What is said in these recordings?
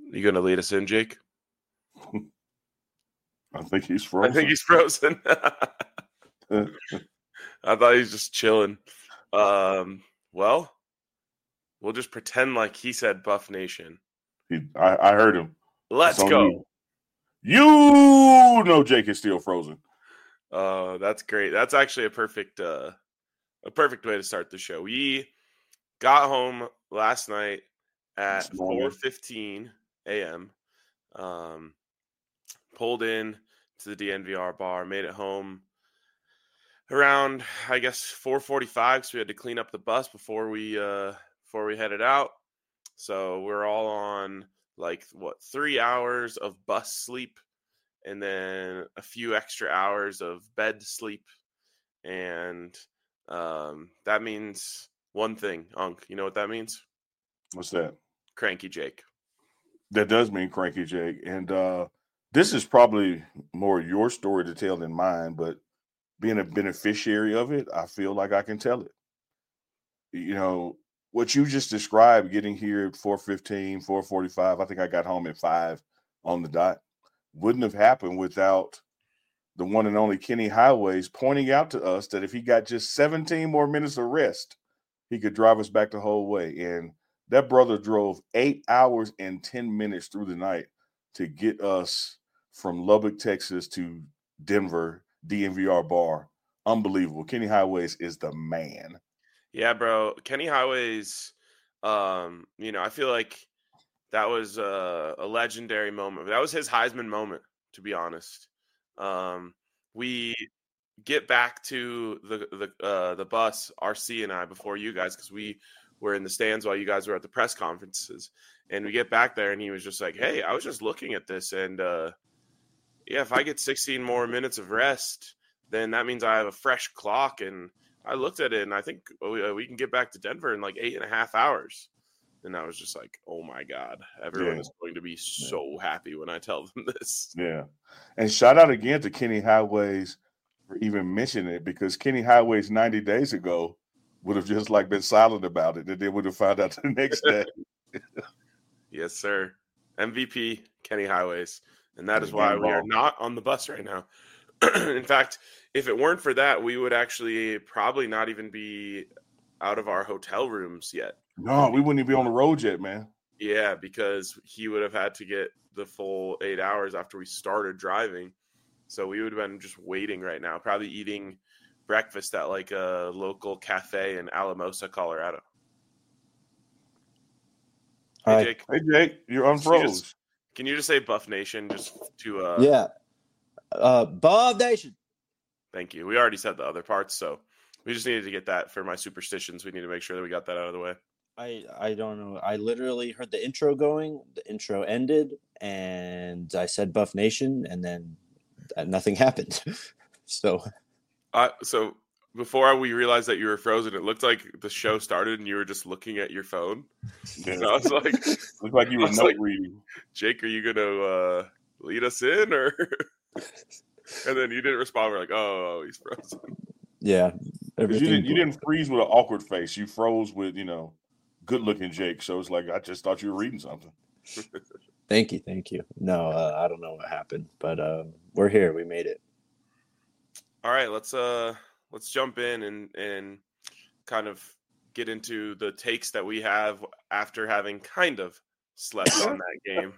You going to lead us in, Jake? I think he's frozen. I think he's frozen. I thought he was just chilling. Well, we'll just pretend like he said Buff Nation. I heard him. Let's go. You know Jake is still frozen. That's great. That's actually a perfect way to start the show. We got home last night at 4:15 a.m. Pulled in to the DNVR bar, made it home around, I guess, 4:45. So we had to clean up the bus before we headed out. So we're all on 3 hours of bus sleep, and then a few extra hours of bed sleep, and that means one thing, Unc. You know what that means? What's that? Cranky Jake. That does mean Cranky Jake, and this is probably more your story to tell than mine, but being a beneficiary of it, I feel like I can tell it. You know, what you just described, getting here at 4:15, 4:45, I think I got home at 5 on the dot, wouldn't have happened without the one and only Kenny Highways pointing out to us that if he got just 17 more minutes of rest, he could drive us back the whole way. And that brother drove 8 hours and 10 minutes through the night to get us from Lubbock, Texas to Denver, DNVR bar. Unbelievable. Kenny Highways is the man. Yeah, bro. Kenny Highways, I feel like that was a legendary moment. That was his Heisman moment, to be honest. We get back to the bus, RC and I, before you guys, because we were in the stands while you guys were at the press conferences. And we get back there, and he was just like, hey, I was just looking at this, and if I get 16 more minutes of rest, then that means I have a fresh clock. And I looked at it, and I think we can get back to Denver in 8.5 hours. And I was just like, oh, my God. Everyone is going to be so happy when I tell them this. Yeah. And shout out again to Kenny Highways for even mentioning it, because Kenny Highways 90 days ago would have just been silent about it, and they would have found out the next day. Yes, sir. MVP, Kenny Highways. And that is why we are not on the bus right now. In fact, if it weren't for that, we would actually probably not even be out of our hotel rooms yet. No, we wouldn't even be on the road yet, man. Yeah, because he would have had to get the full 8 hours after we started driving. So we would have been just waiting right now, probably eating breakfast at a local cafe in Alamosa, Colorado. Hey, Jake. Hey, Jake, you're unfroze. Can you just say Buff Nation just to Yeah. Buff Nation. Thank you. We already said the other parts, so we just needed to get that for my superstitions. We need to make sure that we got that out of the way. I don't know. I literally heard the intro going. The intro ended, and I said Buff Nation, and then nothing happened. So before we realized that you were frozen, it looked like the show started and you were just looking at your phone. Yeah. And I was like, looked like you were note reading. Jake, are you gonna lead us in, or? And then you didn't respond. We're like, oh, he's frozen. Yeah, you didn't freeze with an awkward face. You froze with good-looking Jake. So it's like I just thought you were reading something. Thank you. No, I don't know what happened, but we're here. We made it. All right, let's jump in and kind of get into the takes that we have after having kind of slept on that game.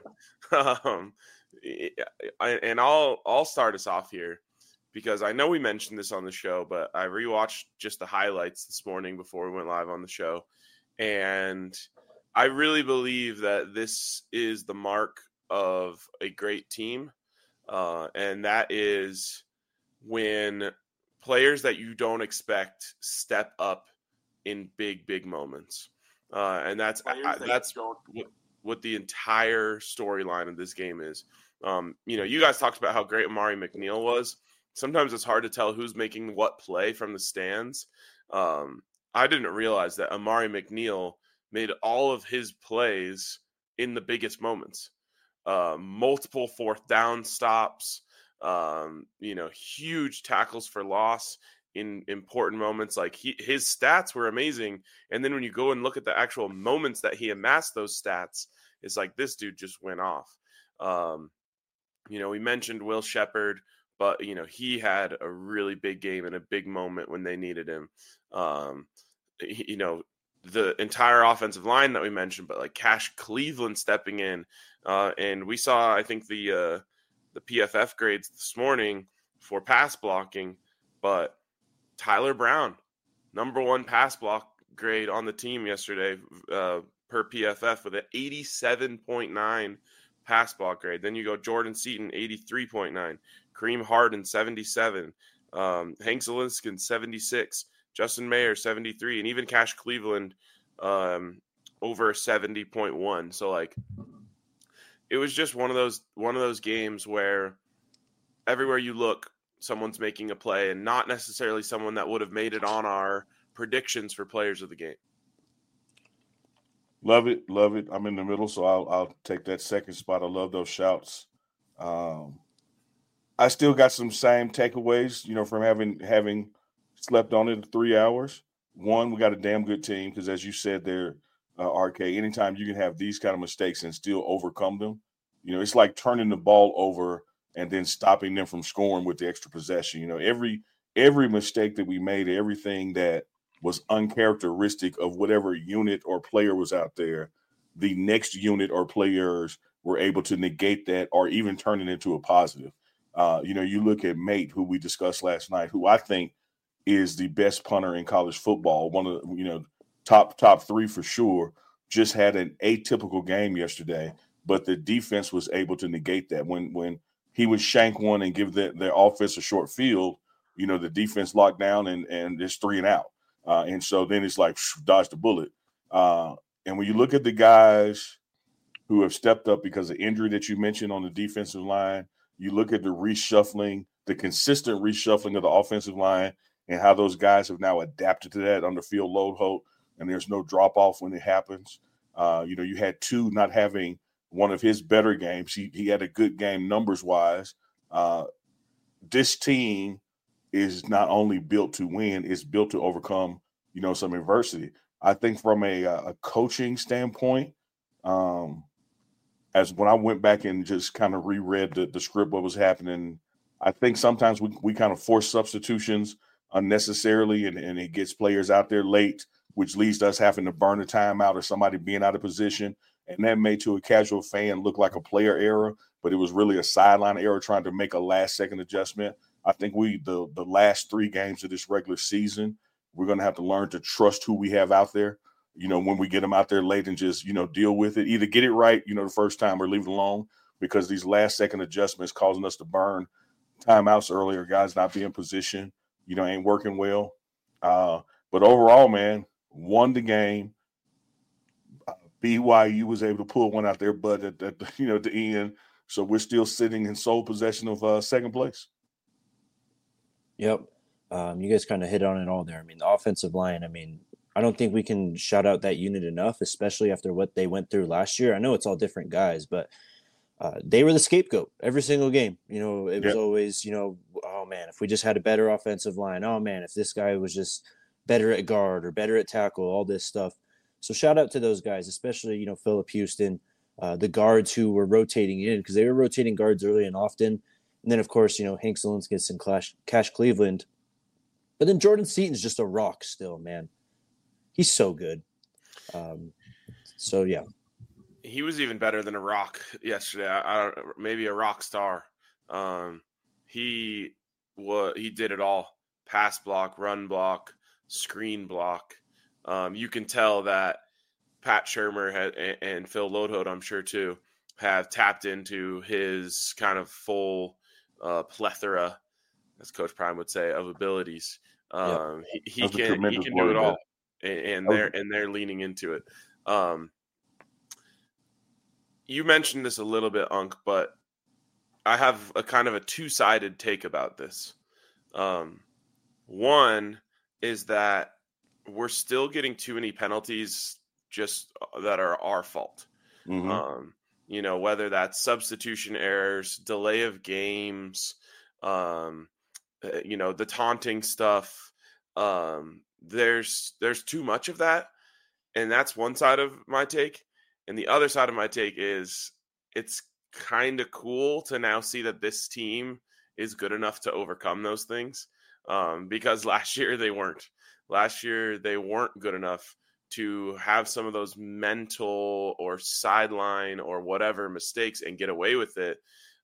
And I'll start us off here, because I know we mentioned this on the show, but I rewatched just the highlights this morning before we went live on the show. And I really believe that this is the mark of a great team. And that is when players that you don't expect step up in big moments. And that's what the entire storyline of this game is. You guys talked about how great Amari McNeil was. Sometimes it's hard to tell who's making what play from the stands. I didn't realize that Amari McNeil made all of his plays in the biggest moments. Multiple fourth down stops, huge tackles for loss in important moments. His stats were amazing. And then when you go and look at the actual moments that he amassed those stats, It's like this dude just went off. We mentioned Will Shepherd, but he had a really big game and a big moment when they needed him. The entire offensive line that we mentioned, but like Cash Cleveland stepping in, and we saw, I think, the PFF grades this morning for pass blocking, but Tyler Brown, number 1 pass block grade on the team yesterday per PFF with an 87.9 pass block grade. Then you go Jordan Seaton, 83.9, Kareem Harden, 77, Hank Zelinskin, 76, Justin Mayer, 73, and even Cash Cleveland over 70.1. So like it was just one of those games where everywhere you look, someone's making a play, and not necessarily someone that would have made it on our predictions for players of the game. Love it. I'm in the middle, so I'll take that second spot. I love those shouts. I still got some same takeaways, from having slept on it in 3 hours. One, we got a damn good team because, as you said there, RK, anytime you can have these kind of mistakes and still overcome them, it's like turning the ball over and then stopping them from scoring with the extra possession. Every mistake that we made, everything that was uncharacteristic of whatever unit or player was out there, the next unit or players were able to negate that or even turn it into a positive. You look at Mate, who we discussed last night, who I think is the best punter in college football, one of the, top 3 for sure, just had an atypical game yesterday, but the defense was able to negate that. When he would shank one and give their offense a short field, the defense locked down and it's 3 and out. And so then it's like, dodge the bullet. And when you look at the guys who have stepped up because of injury that you mentioned on the defensive line, you look at the reshuffling, the consistent reshuffling of the offensive line, and how those guys have now adapted to that under Phil Loadholt, and there's no drop-off when it happens. You had Tu not having one of his better games. He had a good game numbers-wise. This team is not only built to win, it's built to overcome, some adversity. I think from a coaching standpoint, as when I went back and just kind of reread the script, what was happening, I think sometimes we kind of force substitutions unnecessarily, and it gets players out there late, which leads to us having to burn a timeout or somebody being out of position. And that made, to a casual fan, look like a player error, but it was really a sideline error trying to make a last-second adjustment. I think the last 3 games of this regular season, we're going to have to learn to trust who we have out there, when we get them out there late, and just, deal with it. Either get it right, the first time, or leave it alone, because these last-second adjustments causing us to burn timeouts earlier, guys not being in position, ain't working well. But overall, man, won the game. BYU was able to pull one out their butt at the end. So we're still sitting in sole possession of second place. Yep. You guys kind of hit on it all there. I mean, the offensive line, I don't think we can shout out that unit enough, especially after what they went through last year. I know it's all different guys, but they were the scapegoat every single game. It was always, oh, man, if we just had a better offensive line, oh, man, if this guy was just better at guard or better at tackle, all this stuff. So shout out to those guys, especially, Phillip Houston, the guards who were rotating in, because they were rotating guards early and often. And then, of course, Hank Zelinskin and Cash Cleveland. But then Jordan Seaton's just a rock still, man. He's so good. So, yeah. He was even better than a rock yesterday. Maybe a rock star. He did it all: pass block, run block, screen block. You can tell that Pat Shurmur and Phil Loadholt, I'm sure too, have tapped into his kind of full plethora, as Coach Prime would say, of abilities. He can do it all, and they're leaning into it. You mentioned this a little bit, Unc, but I have a kind of a two-sided take about this. One is that we're still getting too many penalties just that are our fault. Mm-hmm. Whether that's substitution errors, delay of games, the taunting stuff. There's too much of that. And that's one side of my take. And the other side of my take is it's kind of cool to now see that this team is good enough to overcome those things, because last year they weren't. Last year they weren't good enough to have some of those mental or sideline or whatever mistakes and get away with it.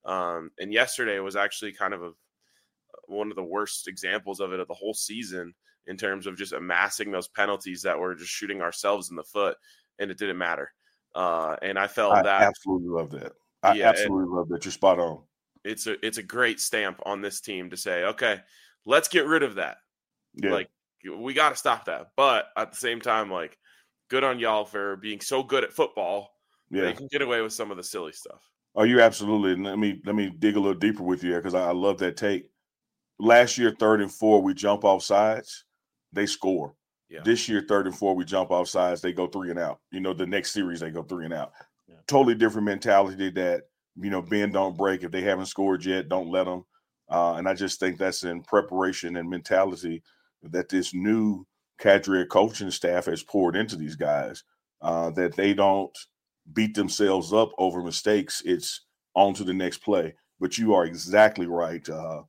And yesterday was actually kind of one of the worst examples of it of the whole season in terms of just amassing those penalties that were just shooting ourselves in the foot, and it didn't matter. And I felt that absolutely love that. I absolutely love that. You're spot on. It's a great stamp on this team to say, okay, let's get rid of that. Yeah. Like, we got to stop that. But at the same time, like, good on y'all for being so good at football. Yeah, they can get away with some of the silly stuff. Oh, you absolutely. And let me dig a little deeper with you because I love that take. Last year, 3rd and 4, we jump off sides, they score. Yeah. This year, 3rd and 4, we jump off sides, they go 3 and out. The next series they go 3 and out. Yeah. Totally different mentality that bend don't break. If they haven't scored yet, don't let them. And I just think that's in preparation and mentality that this new cadre coaching staff has poured into these guys, that they don't beat themselves up over mistakes. It's on to the next play. But you are exactly right.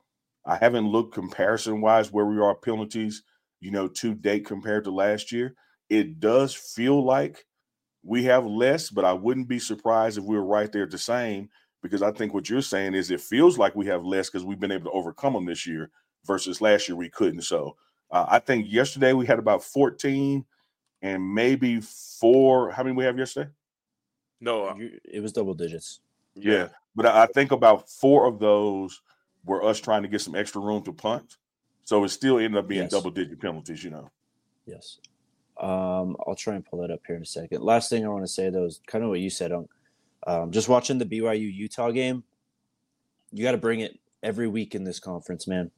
I haven't looked comparison-wise where we are penalties, to date compared to last year. It does feel like we have less, but I wouldn't be surprised if we were right there at the same, because I think what you're saying is it feels like we have less because we've been able to overcome them this year versus last year we couldn't. So I think yesterday we had about 14 and maybe 4. How many we have yesterday? No, it was double digits. Yeah. But I think about 4 of those were us trying to get some extra room to punt. So it still ended up being double-digit penalties, Yes. I'll try and pull that up here in a second. Last thing I want to say, though, is kind of what you said. Just watching the BYU-Utah game, you got to bring it every week in this conference, man.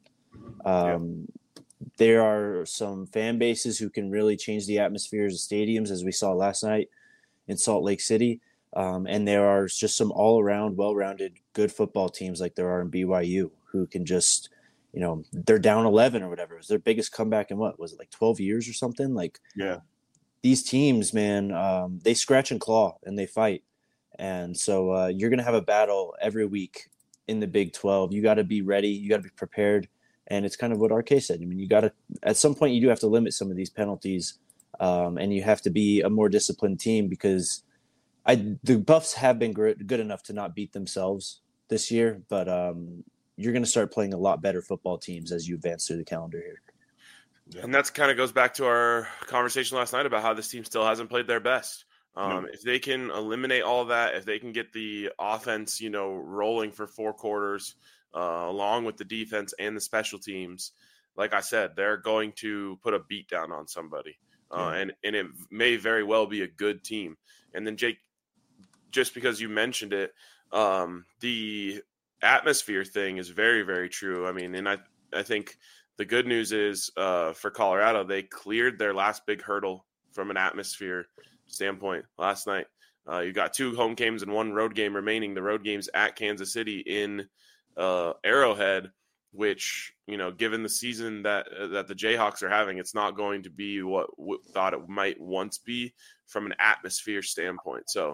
There are some fan bases who can really change the atmospheres of stadiums, as we saw last night in Salt Lake City. And there are just some all-around, well-rounded, good football teams like there are in BYU who can just, they're down 11 or whatever. It was their biggest comeback in what? Was it like 12 years or something? These teams, man, they scratch and claw and they fight. And so you're going to have a battle every week in the Big 12. You got to be ready. You got to be prepared. And it's kind of what RK said. I mean, you got to, at some point, you do have to limit some of these penalties, and you have to be a more disciplined team because the Buffs have been good enough to not beat themselves this year, but you're going to start playing a lot better football teams as you advance through the calendar here. Yeah. And that's kind of goes back to our conversation last night about how this team still hasn't played their best. If they can eliminate all of that, if they can get the offense, rolling for 4 quarters, along with the defense and the special teams, like I said, they're going to put a beat down on somebody. And it may very well be a good team. And then, Jake, just because you mentioned it, the atmosphere thing is very, very true. I mean, and I think the good news is for Colorado, they cleared their last big hurdle from an atmosphere standpoint last night. You got 2 home games and 1 road game remaining. The road game's at Kansas City in Arrowhead, which, given the season that the Jayhawks are having, it's not going to be what we thought it might once be from an atmosphere standpoint. So,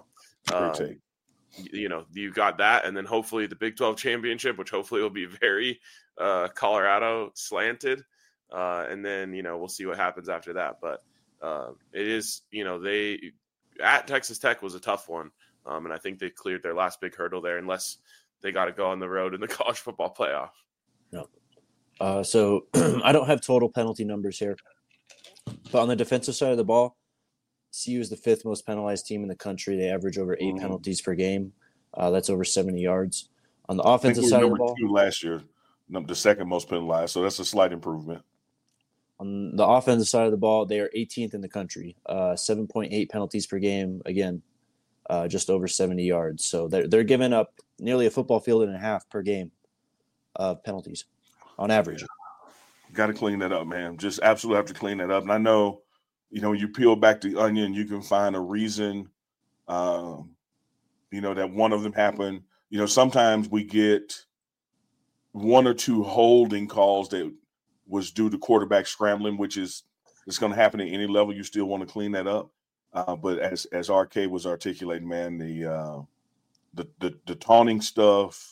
you got that, and then hopefully the Big 12 championship, which hopefully will be very Colorado slanted, and then we'll see what happens after that. But it is, they at Texas Tech was a tough one, and I think they cleared their last big hurdle there, unless they got to go on the road in the college football playoff. No. So I don't have total penalty numbers here, but on the defensive side of the ball, CU is the 5th most penalized team in the country. They average over 8 penalties per game. That's over 70 yards. On the offensive side of the ball, 2 last year, the 2nd most penalized. So that's a slight improvement. On the offensive side of the ball, they are 18th in the country, 7.8 penalties per game. Again, just over 70 yards. So they're giving up nearly a football field and a half per game of penalties on average. Got to clean that up, man. Just absolutely have to clean that up. And I know, you peel back the onion, you can find a reason, that one of them happened. Sometimes we get 1 or 2 holding calls that was due to quarterback scrambling, which is it's going to happen at any level. You still want to clean that up. But as RK was articulating, man, the taunting stuff,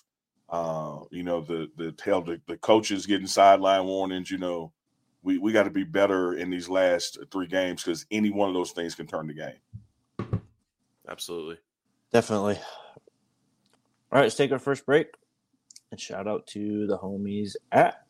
the coaches getting sideline warnings, we got to be better in these last 3 games because any one of those things can turn the game. Absolutely. Definitely. All right, let's take our first break. And shout out to the homies at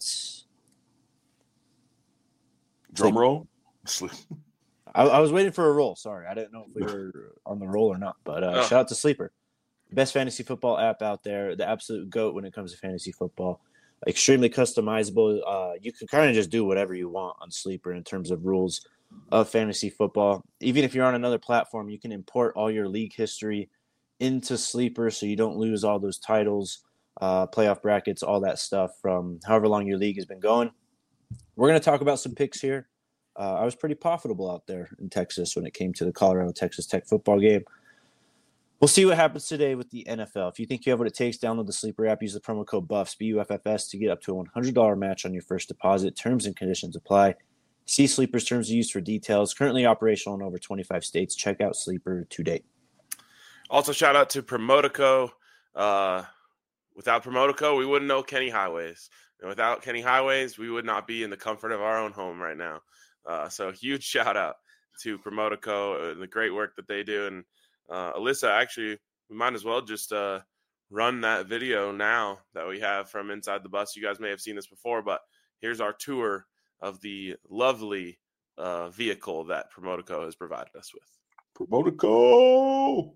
Drum roll. I was waiting for a roll. Sorry, I didn't know if we were on the roll or not. But shout out to Sleeper, best fantasy football app out there, the absolute GOAT when it comes to fantasy football. Extremely customizable. You can kind of just do whatever you want on Sleeper in terms of rules of fantasy football. Even if you're on another platform, you can import all your league history into Sleeper so you don't lose all those titles, playoff brackets, all that stuff from however long your league has been going. We're going to talk about some picks here. I was pretty profitable out there in Texas when it came to the Colorado-Texas Tech football game. We'll see what happens today with the NFL. If you think you have what it takes, download the Sleeper app. Use the promo code BUFFS, BUFFS, to get up to a $100 match on your first deposit. Terms and conditions apply. See Sleeper's terms of use for details. Currently operational in over 25 states. Check out Sleeper today. Also, shout out to Promotico. Without Promotico, we wouldn't know Kenny Highways. And without Kenny Highways, we would not be in the comfort of our own home right now. So huge shout out to Promotico and the great work that they do. And Alyssa, actually, we might as well just run that video now that we have from inside the bus. You guys may have seen this before, but here's our tour of the lovely vehicle that Promotico has provided us with. Promotico!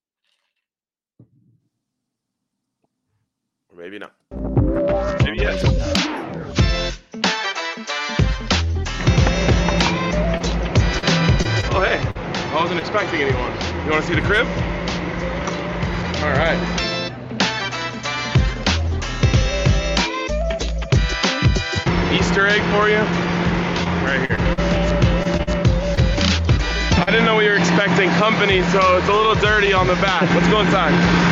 Or maybe not. Maybe yes. Oh, hey. I wasn't expecting anyone. You want to see the crib? All right. Easter egg for you. Right here. I didn't know we were expecting company, so it's a little dirty on the back. Let's go inside.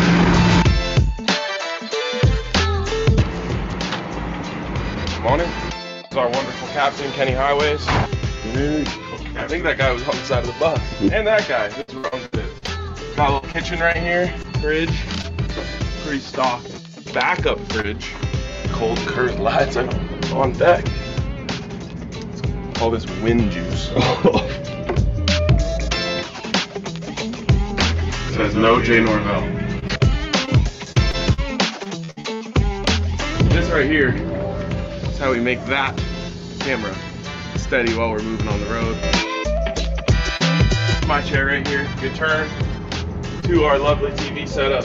Morning. This is our wonderful captain, Kenny Highways. I think that guy was on the side of the bus. And that guy. This is where I'm good. Got a little kitchen right here. Fridge. Pretty stock. Backup fridge. Cold curtain lights on deck. All this wind juice. It says no Jay Norvell. This right here is how we make that camera steady while we're moving on the road. My chair right here, good turn to our lovely TV setup.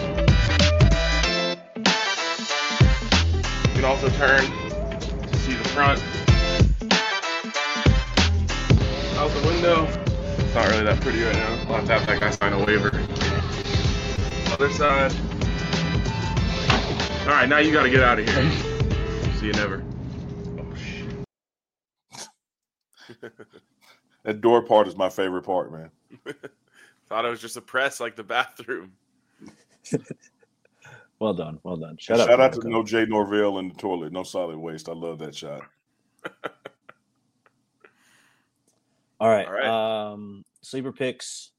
You can also turn to see the front. Out the window. It's not really that pretty right now. I'll have to have that guy sign a waiver. Other side. All right, now you got to get out of here. See you never. Oh, shit. That door part is my favorite part, man. Thought it was just a press like the bathroom. Well done. Well done. Shout out to no Jay Norvell in the toilet. No solid waste. I love that shot. All right. Sleeper picks.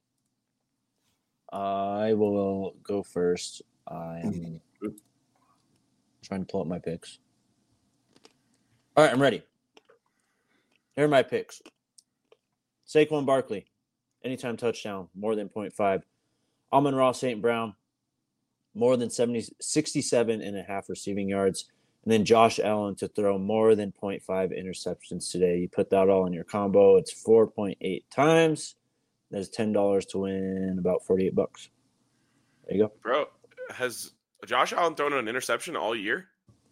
I will go first. I'm trying to pull up my picks. All right, I'm ready. Here are my picks. Saquon Barkley, anytime touchdown, more than 0.5. Amon-Ra St. Brown, more than 67.5 receiving yards. And then Josh Allen to throw more than 0.5 interceptions today. You put that all in your combo, it's 4.8 times. There's $10 to win about $48. There you go. Bro, has Josh Allen thrown an interception all year?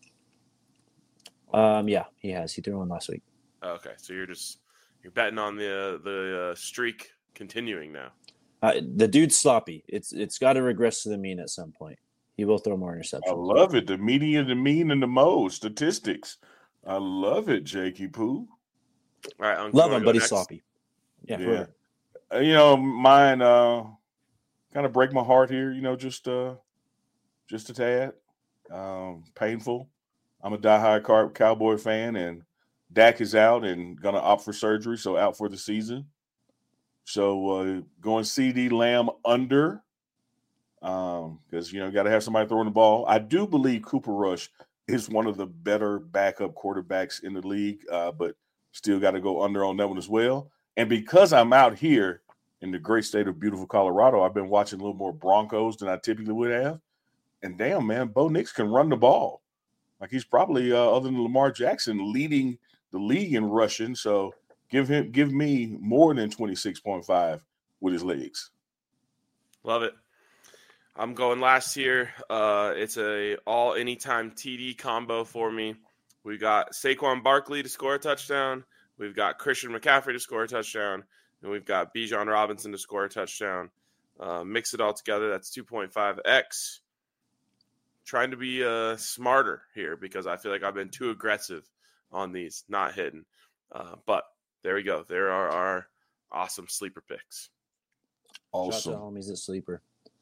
Yeah, he has. He threw one last week. Okay, so you're betting on the streak continuing now. The dude's sloppy. It's got to regress to the mean at some point. He will throw more interceptions. I love it. The median, the mean, and the mode statistics. I love it, Jakey Poo. All right, love him, but he's sloppy. Yeah. Mine kind of break my heart here. Just a tad. Painful. I'm a diehard Cowboy fan, and Dak is out and gonna opt for surgery, so out for the season. So going CD Lamb under because, you got to have somebody throwing the ball. I do believe Cooper Rush is one of the better backup quarterbacks in the league, but still got to go under on that one as well. And because I'm out here in the great state of beautiful Colorado, I've been watching a little more Broncos than I typically would have. And damn, man, Bo Nix can run the ball. Like he's probably, other than Lamar Jackson, leading the league in rushing. So give me more than 26.5 with his legs. Love it. I'm going last here. It's a all anytime TD combo for me. We got Saquon Barkley to score a touchdown. We've got Christian McCaffrey to score a touchdown. And we've got Bijan Robinson to score a touchdown. Mix it all together. That's 2.5x. Trying to be smarter here because I feel like I've been too aggressive on these, not hitting. But there we go. There are our awesome sleeper picks. Awesome. Shout out to homies at Sleeper.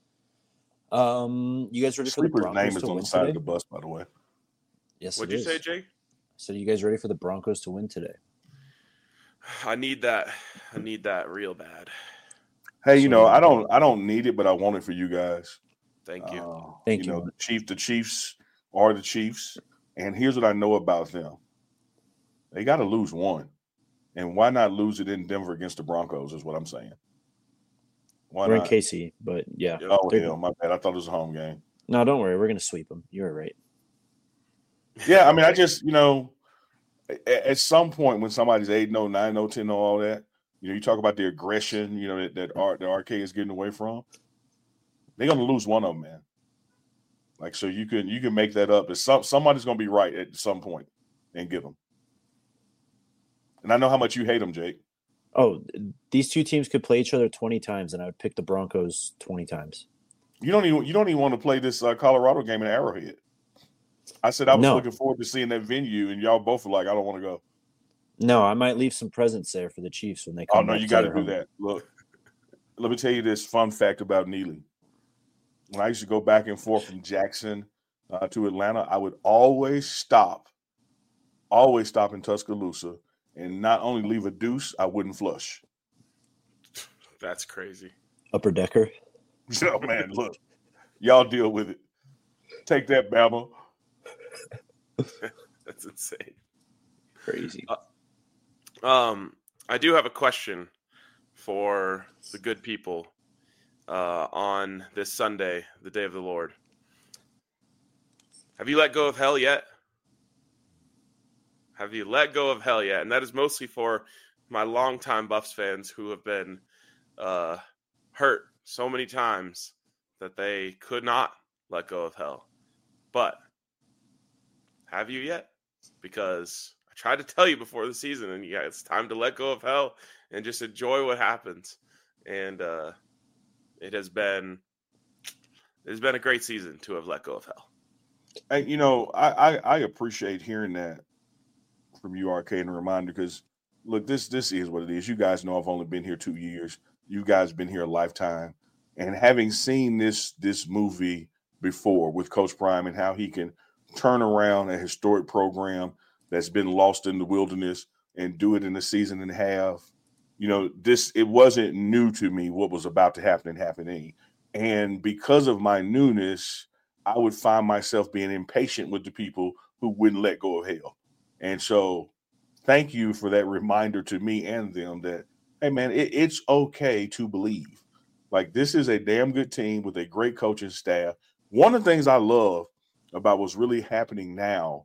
You guys ready for the Broncos name is to on win the side today? of the bus, by the way. Yes, What'd you say, Jake? So you guys ready for the Broncos to win today? I need that. I need that real bad. Hey, I don't need it, but I want it for you guys. Thank you. Thank you. The Chiefs are the Chiefs, and here's what I know about them: they got to lose one, and why not lose it in Denver against the Broncos? Is what I'm saying. Why We're not? in KC, but yeah. Oh, hell, my bad. I thought it was a home game. No, don't worry. We're going to sweep them. You're right. Yeah, I mean, I just, at some point when somebody's 8-0, 9-0, 10-0, all that, you talk about the aggression, that the RK is getting away from. They're going to lose one of them, man. Like, so you can make that up. Somebody's going to be right at some point and give them. And I know how much you hate them, Jake. Oh, these two teams could play each other 20 times, and I would pick the Broncos 20 times. You don't even want to play this Colorado game in Arrowhead. I said I was looking forward to seeing that venue, and y'all both were like, I don't want to go. No, I might leave some presents there for the Chiefs when they come. Oh no, you got to do that. Look, let me tell you this fun fact about Neely. When I used to go back and forth from Jackson to Atlanta, I would always stop in Tuscaloosa. And not only leave a deuce, I wouldn't flush. That's crazy. Upper decker. Oh, man, look. Y'all deal with it. Take that, Bama. That's insane. Crazy. I do have a question for the good people on this Sunday, the day of the Lord. Have you let go of hell yet? Have you let go of hell yet? And that is mostly for my longtime Buffs fans who have been hurt so many times that they could not let go of hell. But have you yet? Because I tried to tell you before the season, and yeah, it's time to let go of hell and just enjoy what happens. And it has been a great season to have let go of hell. And I appreciate hearing that from you, RK, and a reminder, because look, this is what it is. You guys know I've only been here 2 years. You guys been here a lifetime. And having seen this movie before with Coach Prime and how he can turn around a historic program that's been lost in the wilderness and do it in a season and a half, it wasn't new to me what was about to happen and happening. And because of my newness, I would find myself being impatient with the people who wouldn't let go of hell. And so thank you for that reminder to me and them that, hey, man, it's okay to believe. Like, this is a damn good team with a great coaching staff. One of the things I love about what's really happening now,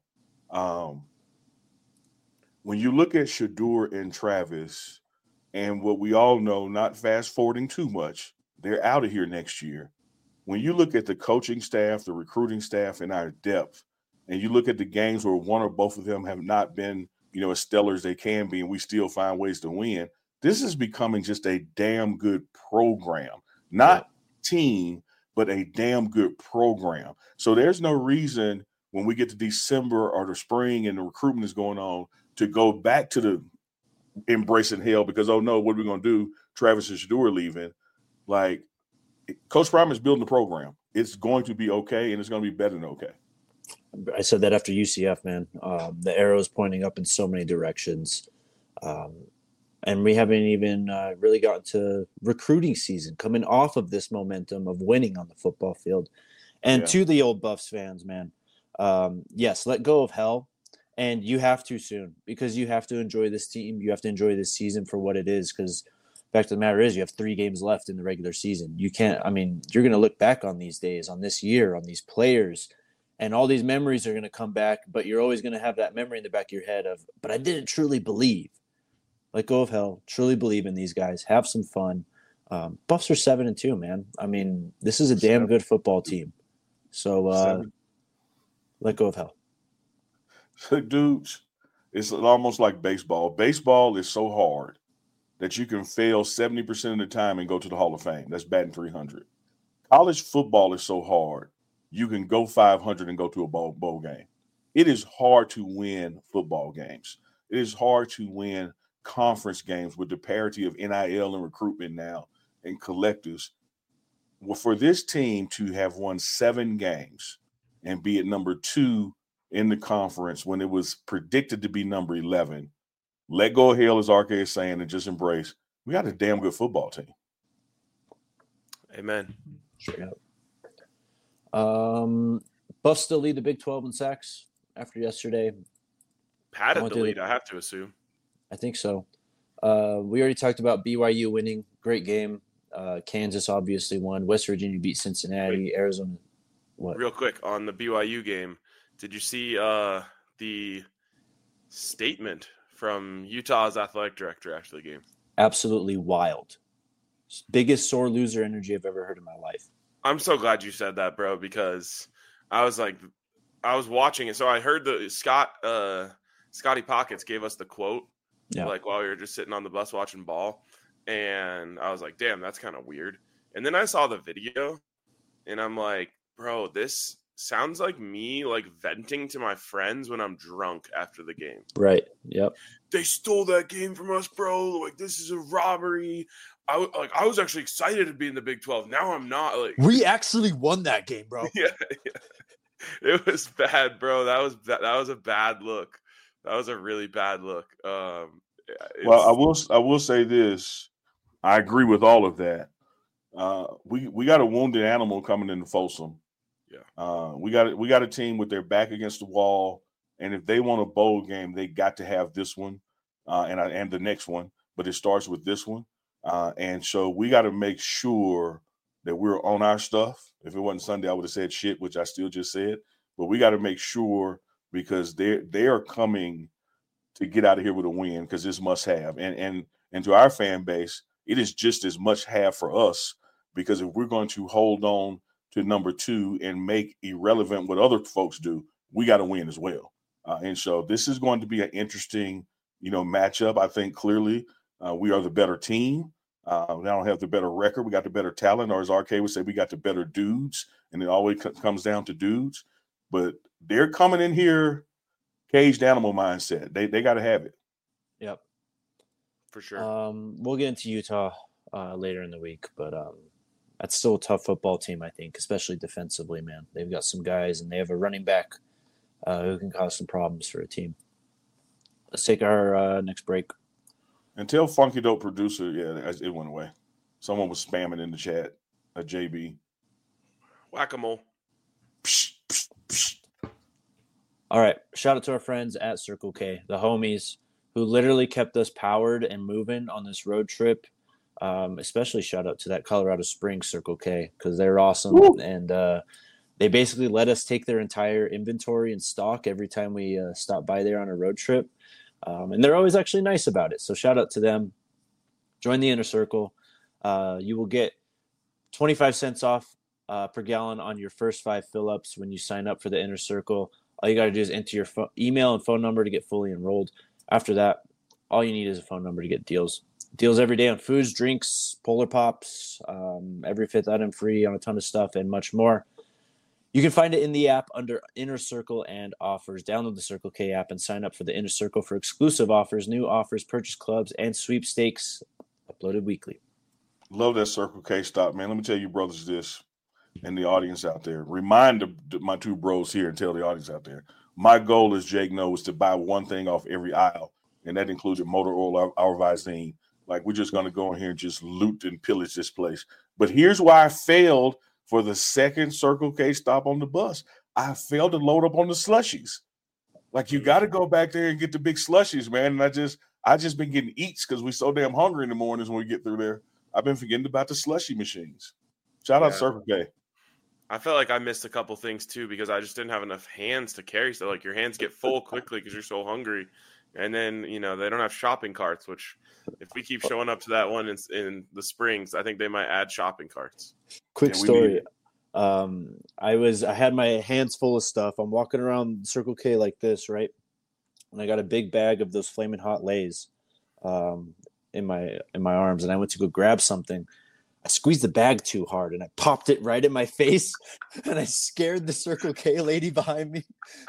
when you look at Shedeur and Travis and what we all know, not fast forwarding too much, they're out of here next year. When you look at the coaching staff, the recruiting staff, and our depth, and you look at the games where one or both of them have not been, as stellar as they can be, and we still find ways to win, this is becoming just a damn good program. Not team, but a damn good program. So there's no reason when we get to December or the spring and the recruitment is going on to go back to the embracing hell because, oh, no, what are we going to do? Travis and Shedeur leaving. Like, Coach Prime is building the program. It's going to be okay, and it's going to be better than okay. I said that after UCF, man. The arrow is pointing up in so many directions. And we haven't even really gotten to recruiting season, coming off of this momentum of winning on the football field. And to the old Buffs fans, man, yes, let go of hell. And you have to soon, because you have to enjoy this team. You have to enjoy this season for what it is, because fact of the matter is you have 3 games left in the regular season. You can't, I mean, you're going to look back on these days, on this year, on these players, and all these memories are going to come back, but you're always going to have that memory in the back of your head of, but I didn't truly believe. Let go of hell. Truly believe in these guys. Have some fun. Buffs are 7-2, man. I mean, this is a damn good football team. So let go of hell. Dudes, it's almost like baseball. Baseball is so hard that you can fail 70% of the time and go to the Hall of Fame. That's batting 300. College football is so hard. You can go 500 and go to a bowl game. It is hard to win football games. It is hard to win conference games with the parity of NIL and recruitment now and collectives. Well, for this team to have won 7 games and be at number 2 in the conference when it was predicted to be number 11, let go of hell, as RK is saying, and just embrace. We got a damn good football team. Amen. Straight up. Buffs still lead the Big 12 in sacks after yesterday. Padded the lead, I have to assume. I think so. We already talked about BYU winning. Great game. Kansas obviously won. West Virginia beat Cincinnati. Wait. Arizona. What? Real quick on the BYU game, did you see the statement from Utah's athletic director after the game? Absolutely wild. Biggest sore loser energy I've ever heard in my life. I'm so glad you said that, bro, because I was watching it. So I heard the Scotty Pockets gave us the quote, like while we were just sitting on the bus watching ball. And I was like, damn, that's kind of weird. And then I saw the video and I'm like, bro, this sounds like me like venting to my friends when I'm drunk after the game. Right. Yep. They stole that game from us, bro. Like, this is a robbery. I was actually excited to be in the Big 12. Now I'm not. Like, we actually won that game, bro. Yeah. It was bad, bro. That was a bad look. That was a really bad look. Well, I will say this. I agree with all of that. We got a wounded animal coming into Folsom. Yeah. We got a team with their back against the wall, and if they want a bowl game, they got to have this one and the next one. But it starts with this one, and so we got to make sure that we're on our stuff. If it wasn't Sunday, I would have said shit, which I still just said. But we got to make sure, because they are coming to get out of here with a win, because it's must have. And to our fan base, it is just as much have for us, because if we're going to hold on to number 2 and make irrelevant what other folks do, we got to win as well. And so this is going to be an interesting, matchup. I think clearly we are the better team. We don't have the better record. We got the better talent, or as RK would say, we got the better dudes. And it always comes down to dudes. But they're coming in here caged animal mindset. They got to have it. Yep. For sure. We'll get into Utah later in the week, but that's still a tough football team, I think, especially defensively, man. They've got some guys, and they have a running back who can cause some problems for a team. Let's take our next break. And tell Funky Dope Producer, it went away. Someone was spamming in the chat, a JB. Whack-a-mole. All right. Shout out to our friends at Circle K, the homies who literally kept us powered and moving on this road trip. Especially shout out to that Colorado Springs Circle K, because they're awesome. Woo! And they basically let us take their entire inventory and stock every time we stop by there on a road trip. And they're always actually nice about it. So shout out to them. Join the Inner Circle. You will get 25 cents off per gallon on your first 5 fill-ups when you sign up for the Inner Circle. All you got to do is enter your email and phone number to get fully enrolled. After that, all you need is a phone number to get deals. Deals every day on foods, drinks, Polar Pops, every 5th item free on a ton of stuff, and much more. You can find it in the app under Inner Circle and offers. Download the Circle K app and sign up for the Inner Circle for exclusive offers, new offers, purchase clubs, and sweepstakes uploaded weekly. Love that Circle K stop, man. Let me tell you, brothers, this, and the audience out there. Remind my 2 bros here and tell the audience out there. My goal, as Jake knows, is to buy one thing off every aisle and that included motor oil, our Visine. Like, we're just going to go in here and just loot and pillage this place. But here's why I failed for the second Circle K stop on the bus. I failed to load up on the slushies. Like, you got to go back there and get the big slushies, man. And I just been getting eats because we're so damn hungry in the mornings when we get through there. I've been forgetting about the slushy machines. Shout out Circle K. I felt like I missed a couple things too because I just didn't have enough hands to carry. So like your hands get full quickly because you're so hungry. And then, they don't have shopping carts, which if we keep showing up to that one in the Springs, I think they might add shopping carts. Quick story. I had my hands full of stuff. I'm walking around Circle K like this, right? And I got a big bag of those Flamin' Hot Lays in my arms, and I went to go grab something. I squeezed the bag too hard, and I popped it right in my face, and I scared the Circle K lady behind me.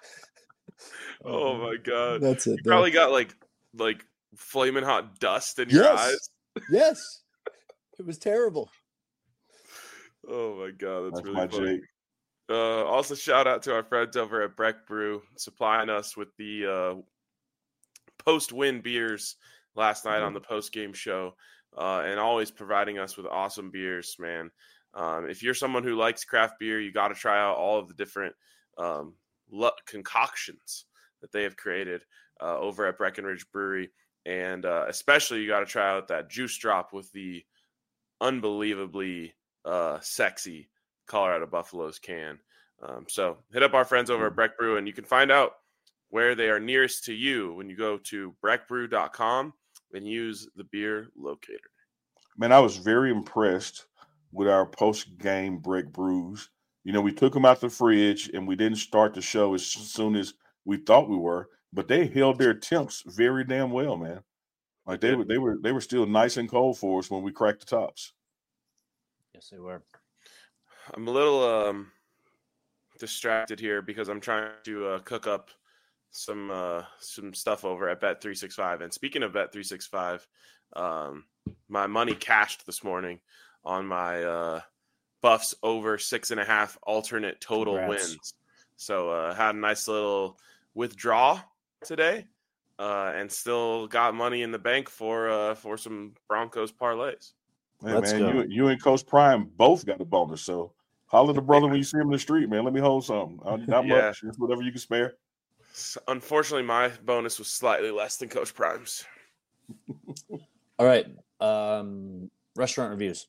Oh my god! That's it. You probably got like flaming hot dust in your eyes. Yes, it was terrible. Oh my god, that's really my funny. Also, shout out to our friends over at Breck Brew supplying us with the post-win beers last night on the post-game show, and always providing us with awesome beers, man. If you're someone who likes craft beer, you got to try out all of the different concoctions that they have created over at Breckenridge Brewery. And especially you got to try out that juice drop with the unbelievably sexy Colorado Buffaloes can. So hit up our friends over at Breck Brew, and you can find out where they are nearest to you when you go to breckbrew.com and use the beer locator. Man, I was very impressed with our post-game Breck Brews. We took them out the fridge, and we didn't start the show as soon as we thought we were, but they held their temps very damn well, man. Like they were still nice and cold for us when we cracked the tops. Yes, they were. I'm a little distracted here because I'm trying to cook up some stuff over at Bet365. And speaking of Bet365, my money cashed this morning on my Buffs over 6.5 alternate total wins. So had a nice little withdraw today, and still got money in the bank for some Broncos parlays. Hey, man, you and Coach Prime both got a bonus. So holler at the brother when you see him in the street, man. Let me hold something. Not much. It's whatever you can spare. Unfortunately, my bonus was slightly less than Coach Prime's. All right. Restaurant reviews.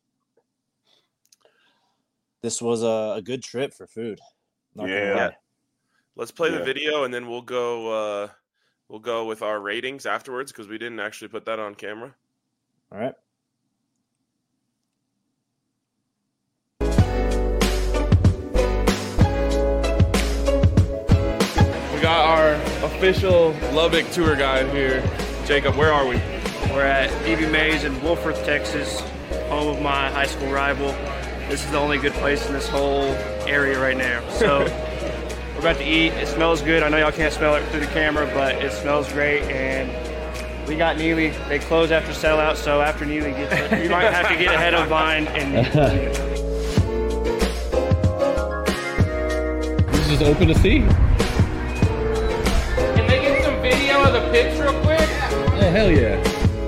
This was a good trip for food. Yeah. Let's play the video, and then we'll go with our ratings afterwards because we didn't actually put that on camera. All right. We got our official Lubbock tour guide here. Jacob, where are we? We're at Evie Mae's in Wolford, Texas, home of my high school rival. This is the only good place in this whole area right now. So we're about to eat. It smells good. I know y'all can't smell it through the camera, but it smells great. And we got Neely. They close after sellout, so after Neely gets it, you might have to get ahead of Vine. And this is just open to see. Can they get some video of the pitch real quick? Oh, hell yeah.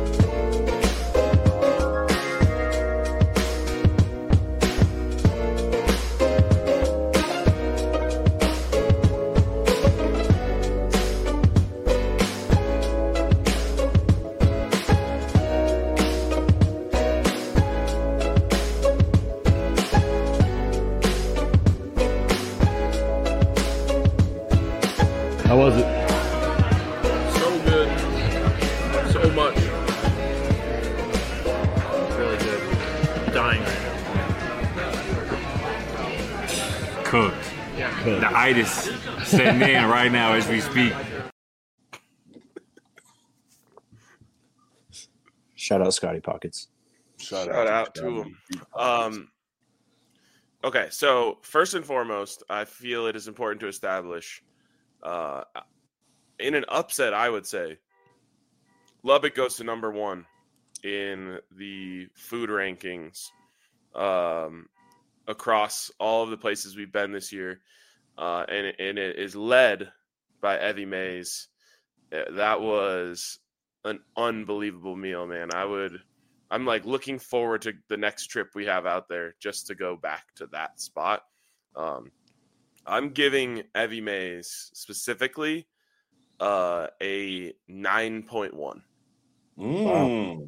How was it? So good. So much. really good. I'm dying right now. Cooked. The itis setting in right now as we speak. Shout out Scotty Pockets. Shout out to him. Okay, so first and foremost, I feel it is important to establish, in an upset, I would say, Lubbock goes to number one in the food rankings across all of the places we've been this year, and it is led by Evie Mae's. That was an unbelievable meal, man. I'm like looking forward to the next trip we have out there just to go back to that spot. I'm giving Evie Mays specifically a 9.1. Wow.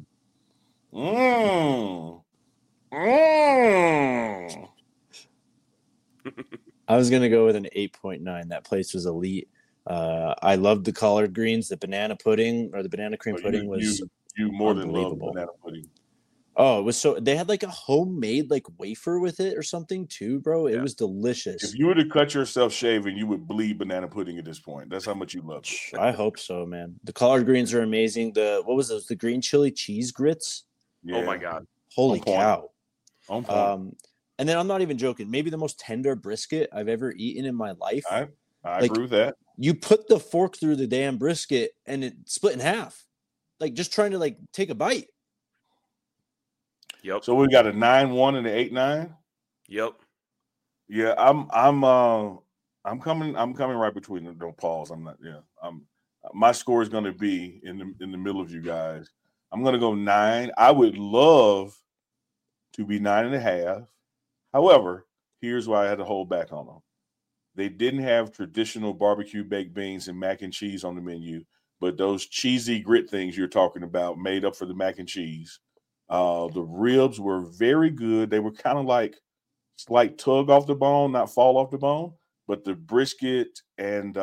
I was gonna go with an 8.9. That place was elite. I loved the collard greens. The banana pudding or the banana cream pudding was you more than love unbelievable. banana pudding. Oh, it was so. They had like a homemade like wafer with it or something too, bro. It was delicious. If you were to cut yourself shaving, you would bleed banana pudding at this point. That's how much you love it. I hope so, man. The collard greens are amazing. What was those? The green chili cheese grits. Yeah. Oh my god! Holy On point. cow! On point. And then I'm not even joking. Maybe the most tender brisket I've ever eaten in my life. I agree with that. You put the fork through the damn brisket and it split in half, like just trying to like take a bite. Yep. So we got a 9.1 and an 8.9. Yep. Yeah, I'm coming right between them. Don't pause. I'm not. Yeah. My score is going to be in the middle of you guys. I'm going to go 9. I would love to be 9.5. However, here's why I had to hold back on them. They didn't have traditional barbecue baked beans and mac and cheese on the menu, but those cheesy grit things you're talking about made up for the mac and cheese. The ribs were very good. They were kind of like slight tug off the bone, not fall off the bone. But the brisket and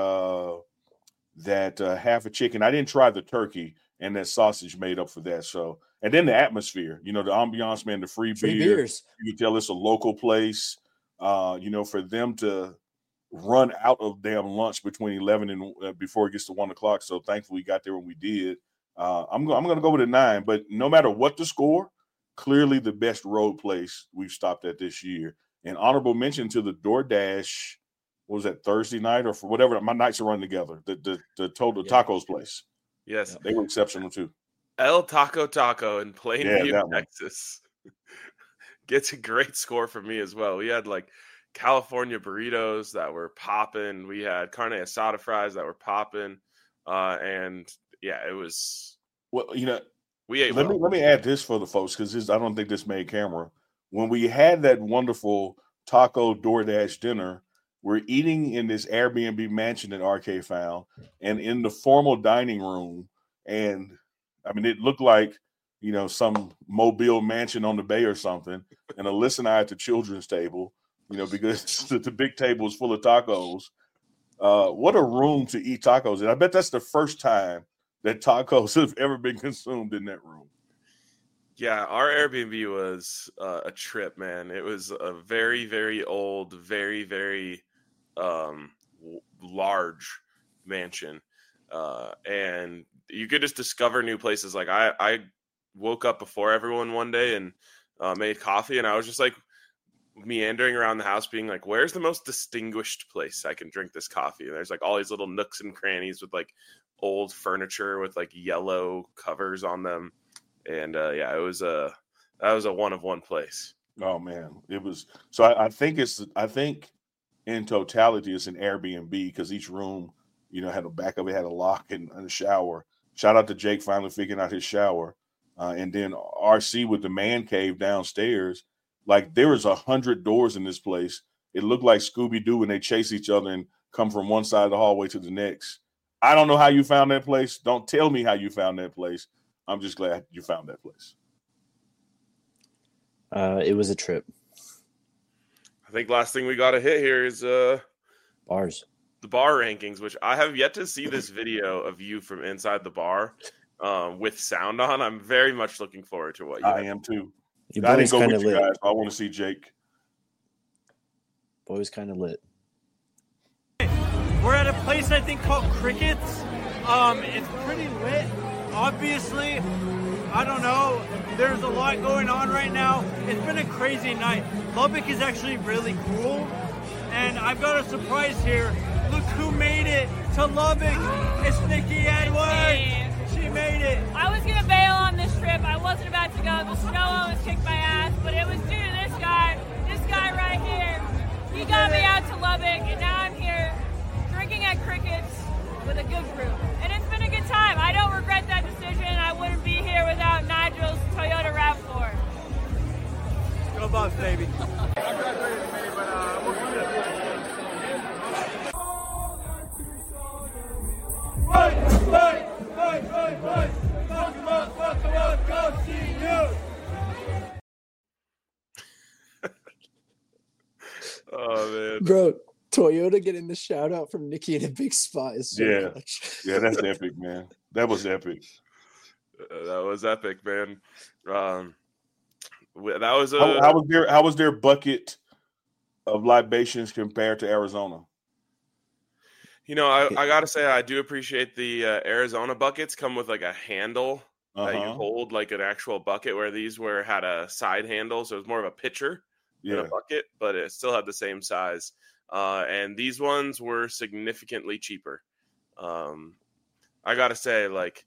that half a chicken, I didn't try the turkey, and that sausage made up for that. So, and then the atmosphere, the ambiance, man, the free beers. You can tell it's a local place. For them to run out of damn lunch between 11 and before it gets to 1 o'clock. So thankfully we got there when we did. I'm going to go with a 9, but no matter what the score, clearly the best road place we've stopped at this year. And honorable mention to the DoorDash, what was that, Thursday night or for whatever? My nights are running together. The Total Tacos place. Yes. They were exceptional too. El Taco in Plainview, that Texas. Gets a great score from me as well. We had like California burritos that were popping. We had carne asada fries that were popping. And yeah, it was. Well, we ate. Let me add this for the folks because I don't think this made camera. When we had that wonderful taco DoorDash dinner, we're eating in this Airbnb mansion that RK found, and in the formal dining room, and I mean it looked like some mobile mansion on the bay or something. And Alyssa and I at the children's table, because the big table is full of tacos. What a room to eat tacos in. I bet that's the first time that tacos have ever been consumed in that room. Yeah, our Airbnb was a trip, man. It was a very, very old, very, very large mansion. And you could just discover new places. Like I woke up before everyone one day and made coffee, and I was just like meandering around the house being like, where's the most distinguished place I can drink this coffee? And there's like all these little nooks and crannies with like old furniture with like yellow covers on them. And that was a one of one place. Oh man, it was. So I think in totality it's an Airbnb because each room, had a back of it had a lock and a shower. Shout out to Jake finally figuring out his shower, and then RC with the man cave downstairs. Like there was 100 doors in this place. It looked like Scooby-Doo when they chase each other and come from one side of the hallway to the next. I don't know how you found that place. Don't tell me how you found that place. I'm just glad you found that place. It was a trip. I think last thing we got to hit here is bars. The bar rankings, which I have yet to see this video of you from inside the bar with sound on. I'm very much looking forward to what you I am too. You I didn't boys go kind with of you lit. guys. I want to see Jake. Boys kind of lit. We're at a place I think called Crickets. It's pretty lit. Obviously, I don't know. There's a lot going on right now. It's been a crazy night. Lubbock is actually really cool. And I've got a surprise here. Look who made it to Lubbock. It's Nikki Edwards. She made it. I was going to bail on this trip. I wasn't about to go. The snow almost kicked my ass. But it was due to this guy right here. He got me out to Lubbock. And now I'm here drinking at Crickets with a good group. And it's been a good time. I don't regret that decision. Bro, Toyota getting the shout out from Nikki in a big spot is so Yeah. clutch. Yeah, that's epic, man. That was epic. That was epic, man. That was How was their bucket of libations compared to Arizona? You know, I gotta say, I do appreciate the Arizona buckets come with like a handle that you hold, like an actual bucket, where these had a side handle, so it was more of a pitcher than a bucket, but it still had the same size. And these ones were significantly cheaper. I gotta say, like,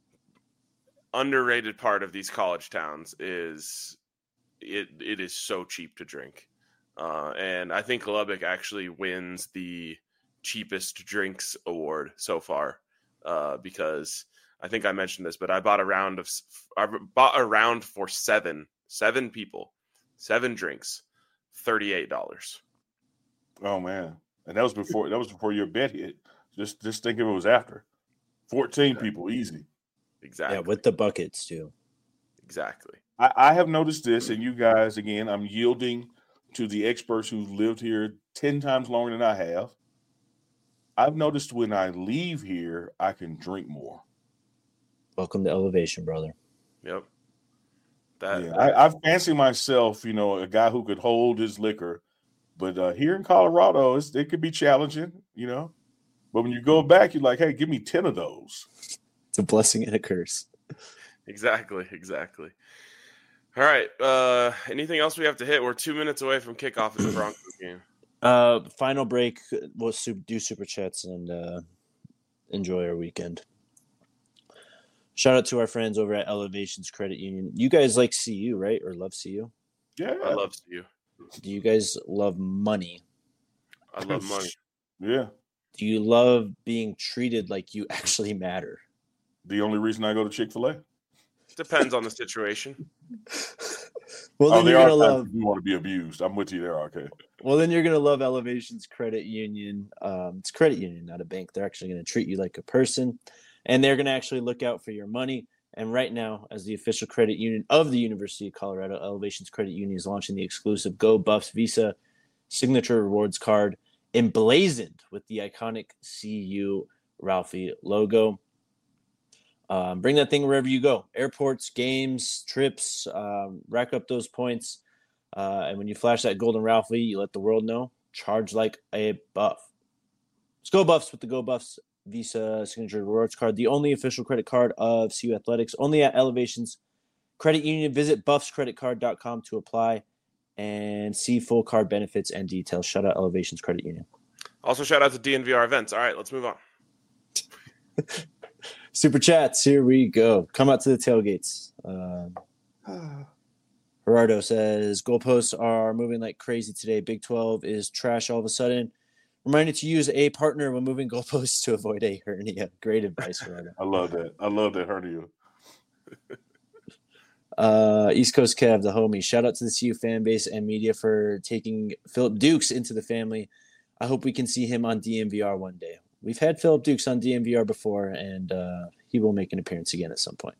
underrated part of these college towns is it is so cheap to drink, and I think Lubbock actually wins the cheapest drinks award so far, because I think I mentioned this, but I bought a round for seven people, 7 drinks, $38. Oh man, and that was before your bet hit. Just think if it was after 14 people, easy. Exactly. Yeah, with the buckets too. Exactly. I have noticed this, and you guys, again, I'm yielding to the experts who've lived here 10 times longer than I have. I've noticed when I leave here, I can drink more. Welcome to Elevation, brother. Yep. I fancy myself, a guy who could hold his liquor, but here in Colorado, it could be challenging, But when you go back, you're like, hey, give me 10 of those. It's a blessing and a curse. Exactly. All right. Anything else we have to hit? We're 2 minutes away from kickoff of the Broncos game. Final break. We'll do super chats and enjoy our weekend. Shout out to our friends over at Elevations Credit Union. You guys like CU, right? Or love CU? Yeah, I love CU. Do you guys love money? I love money. Yeah. Do you love being treated like you actually matter? The only reason I go to Chick-fil-A. Depends on the situation. Well, then you're gonna love. You want to be abused? I'm with you there, okay. Well, then you're gonna love Elevations Credit Union. It's credit union, not a bank. They're actually gonna treat you like a person, and they're gonna actually look out for your money. And right now, as the official credit union of the University of Colorado, Elevations Credit Union is launching the exclusive Go Buffs Visa signature rewards card, emblazoned with the iconic CU Ralphie logo. Bring that thing wherever you go. Airports, games, trips, rack up those points. And when you flash that golden Ralphie, you let the world know. Charge like a buff. Let's go Buffs with the Go Buffs Visa signature rewards card. The only official credit card of CU Athletics. Only at Elevations Credit Union. Visit buffscreditcard.com to apply and see full card benefits and details. Shout out Elevations Credit Union. Also, shout out to DNVR Events. All right, let's move on. Super chats, here we go. Come out to the tailgates. Gerardo says, goalposts are moving like crazy today. Big 12 is trash all of a sudden. Reminded to use a partner when moving goalposts to avoid a hernia. Great advice, Gerardo. I love that hernia. East Coast Kev, the homie. Shout out to the CU fan base and media for taking Philip Dukes into the family. I hope we can see him on DMVR one day. We've had Philip Dukes on DMVR before, and he will make an appearance again at some point.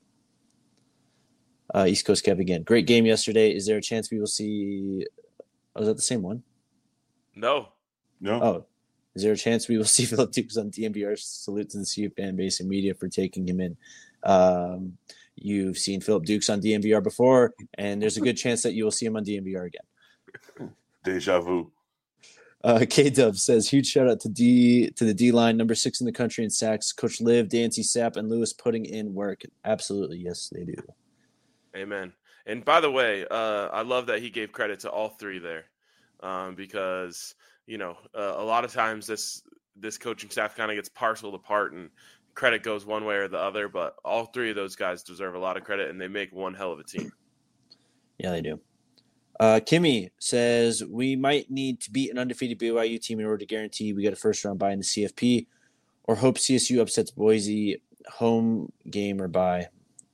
East Coast Kev again. Great game yesterday. Is there a chance we will see – oh, is that the same one? No. Oh, is there a chance we will see Philip Dukes on DMVR? Salute to the CU fan base and media for taking him in. You've seen Philip Dukes on DMVR before, and there's a good chance that you will see him on DMVR again. Deja vu. K-Dub says, huge shout out to the D-line, number 6 in the country in sacks. Coach Liv, Dancy, Sapp, and Lewis putting in work. Absolutely, yes, they do. Amen. And by the way, I love that he gave credit to all 3 there, because a lot of times this coaching staff kind of gets parceled apart and credit goes one way or the other. But all 3 of those guys deserve a lot of credit, and they make one hell of a team. Yeah, they do. Kimmy says, we might need to beat an undefeated BYU team in order to guarantee we get a first-round bye in the CFP, or hope CSU upsets Boise home game or bye.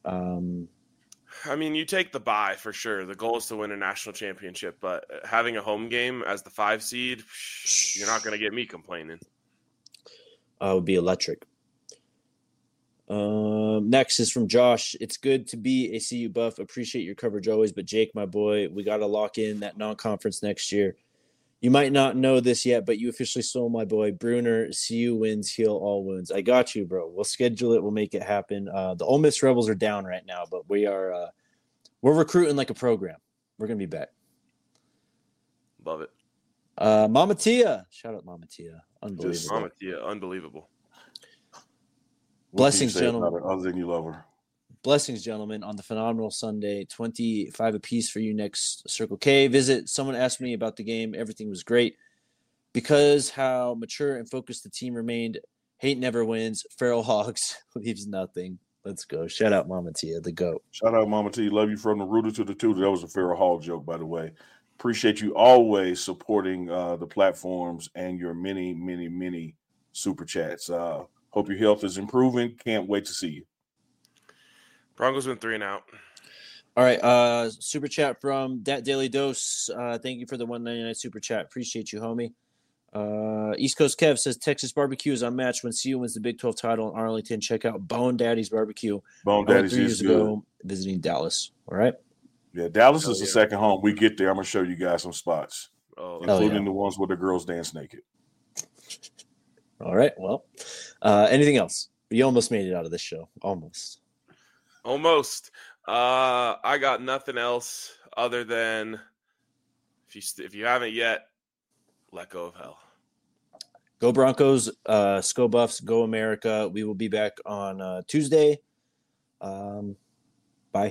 I mean, you take the bye for sure. The goal is to win a national championship, but having a home game as the 5 seed, you're not going to get me complaining. Would be electric. Next is from Josh. It's good to be a CU buff. Appreciate your coverage always, but Jake, my boy, we got to lock in that non-conference next year. You might not know this yet, but you officially stole my boy Bruner. CU wins, heal all wounds. I got you, bro. We'll schedule it. We'll make it happen. The Ole Miss Rebels are down right now, but we're recruiting like a program. We're gonna be back. Love it. Mama Tia, shout out Mama Tia, unbelievable. Mama Tia, unbelievable. Blessings, gentlemen. Other than you love her. Blessings, gentlemen, on the phenomenal Sunday. 25 apiece for you next Circle K. Visit. Someone asked me about the game. Everything was great. Because how mature and focused the team remained. Hate never wins. Feral Hogs leaves nothing. Let's go. Shout out Mama Tia, the GOAT. Shout out Mama Tia. Love you from the rooter to the tutor. That was a Feral Hog joke, by the way. Appreciate you always supporting the platforms and your many, many, many super chats. Hope your health is improving. Can't wait to see you. Broncos win 3 and out. All right. Super chat from Dat Daily Dose. Thank you for the $1.99 super chat. Appreciate you, homie. East Coast Kev says Texas barbecue is unmatched when CU wins the Big 12 title in Arlington. Check out Bone Daddy's Barbecue. Bone Daddy's 3 years ago, visiting Dallas. All right. Yeah, Dallas is the second home. We get there. I'm going to show you guys some spots, including yeah. the ones where the girls dance naked. All right. Well, anything else? You almost made it out of this show. Almost. I got nothing else other than if you haven't yet, let go of hell. Go Broncos, Sko Buffs, go America. We will be back on Tuesday. Bye.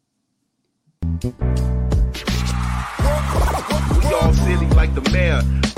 We all silly like the mayor.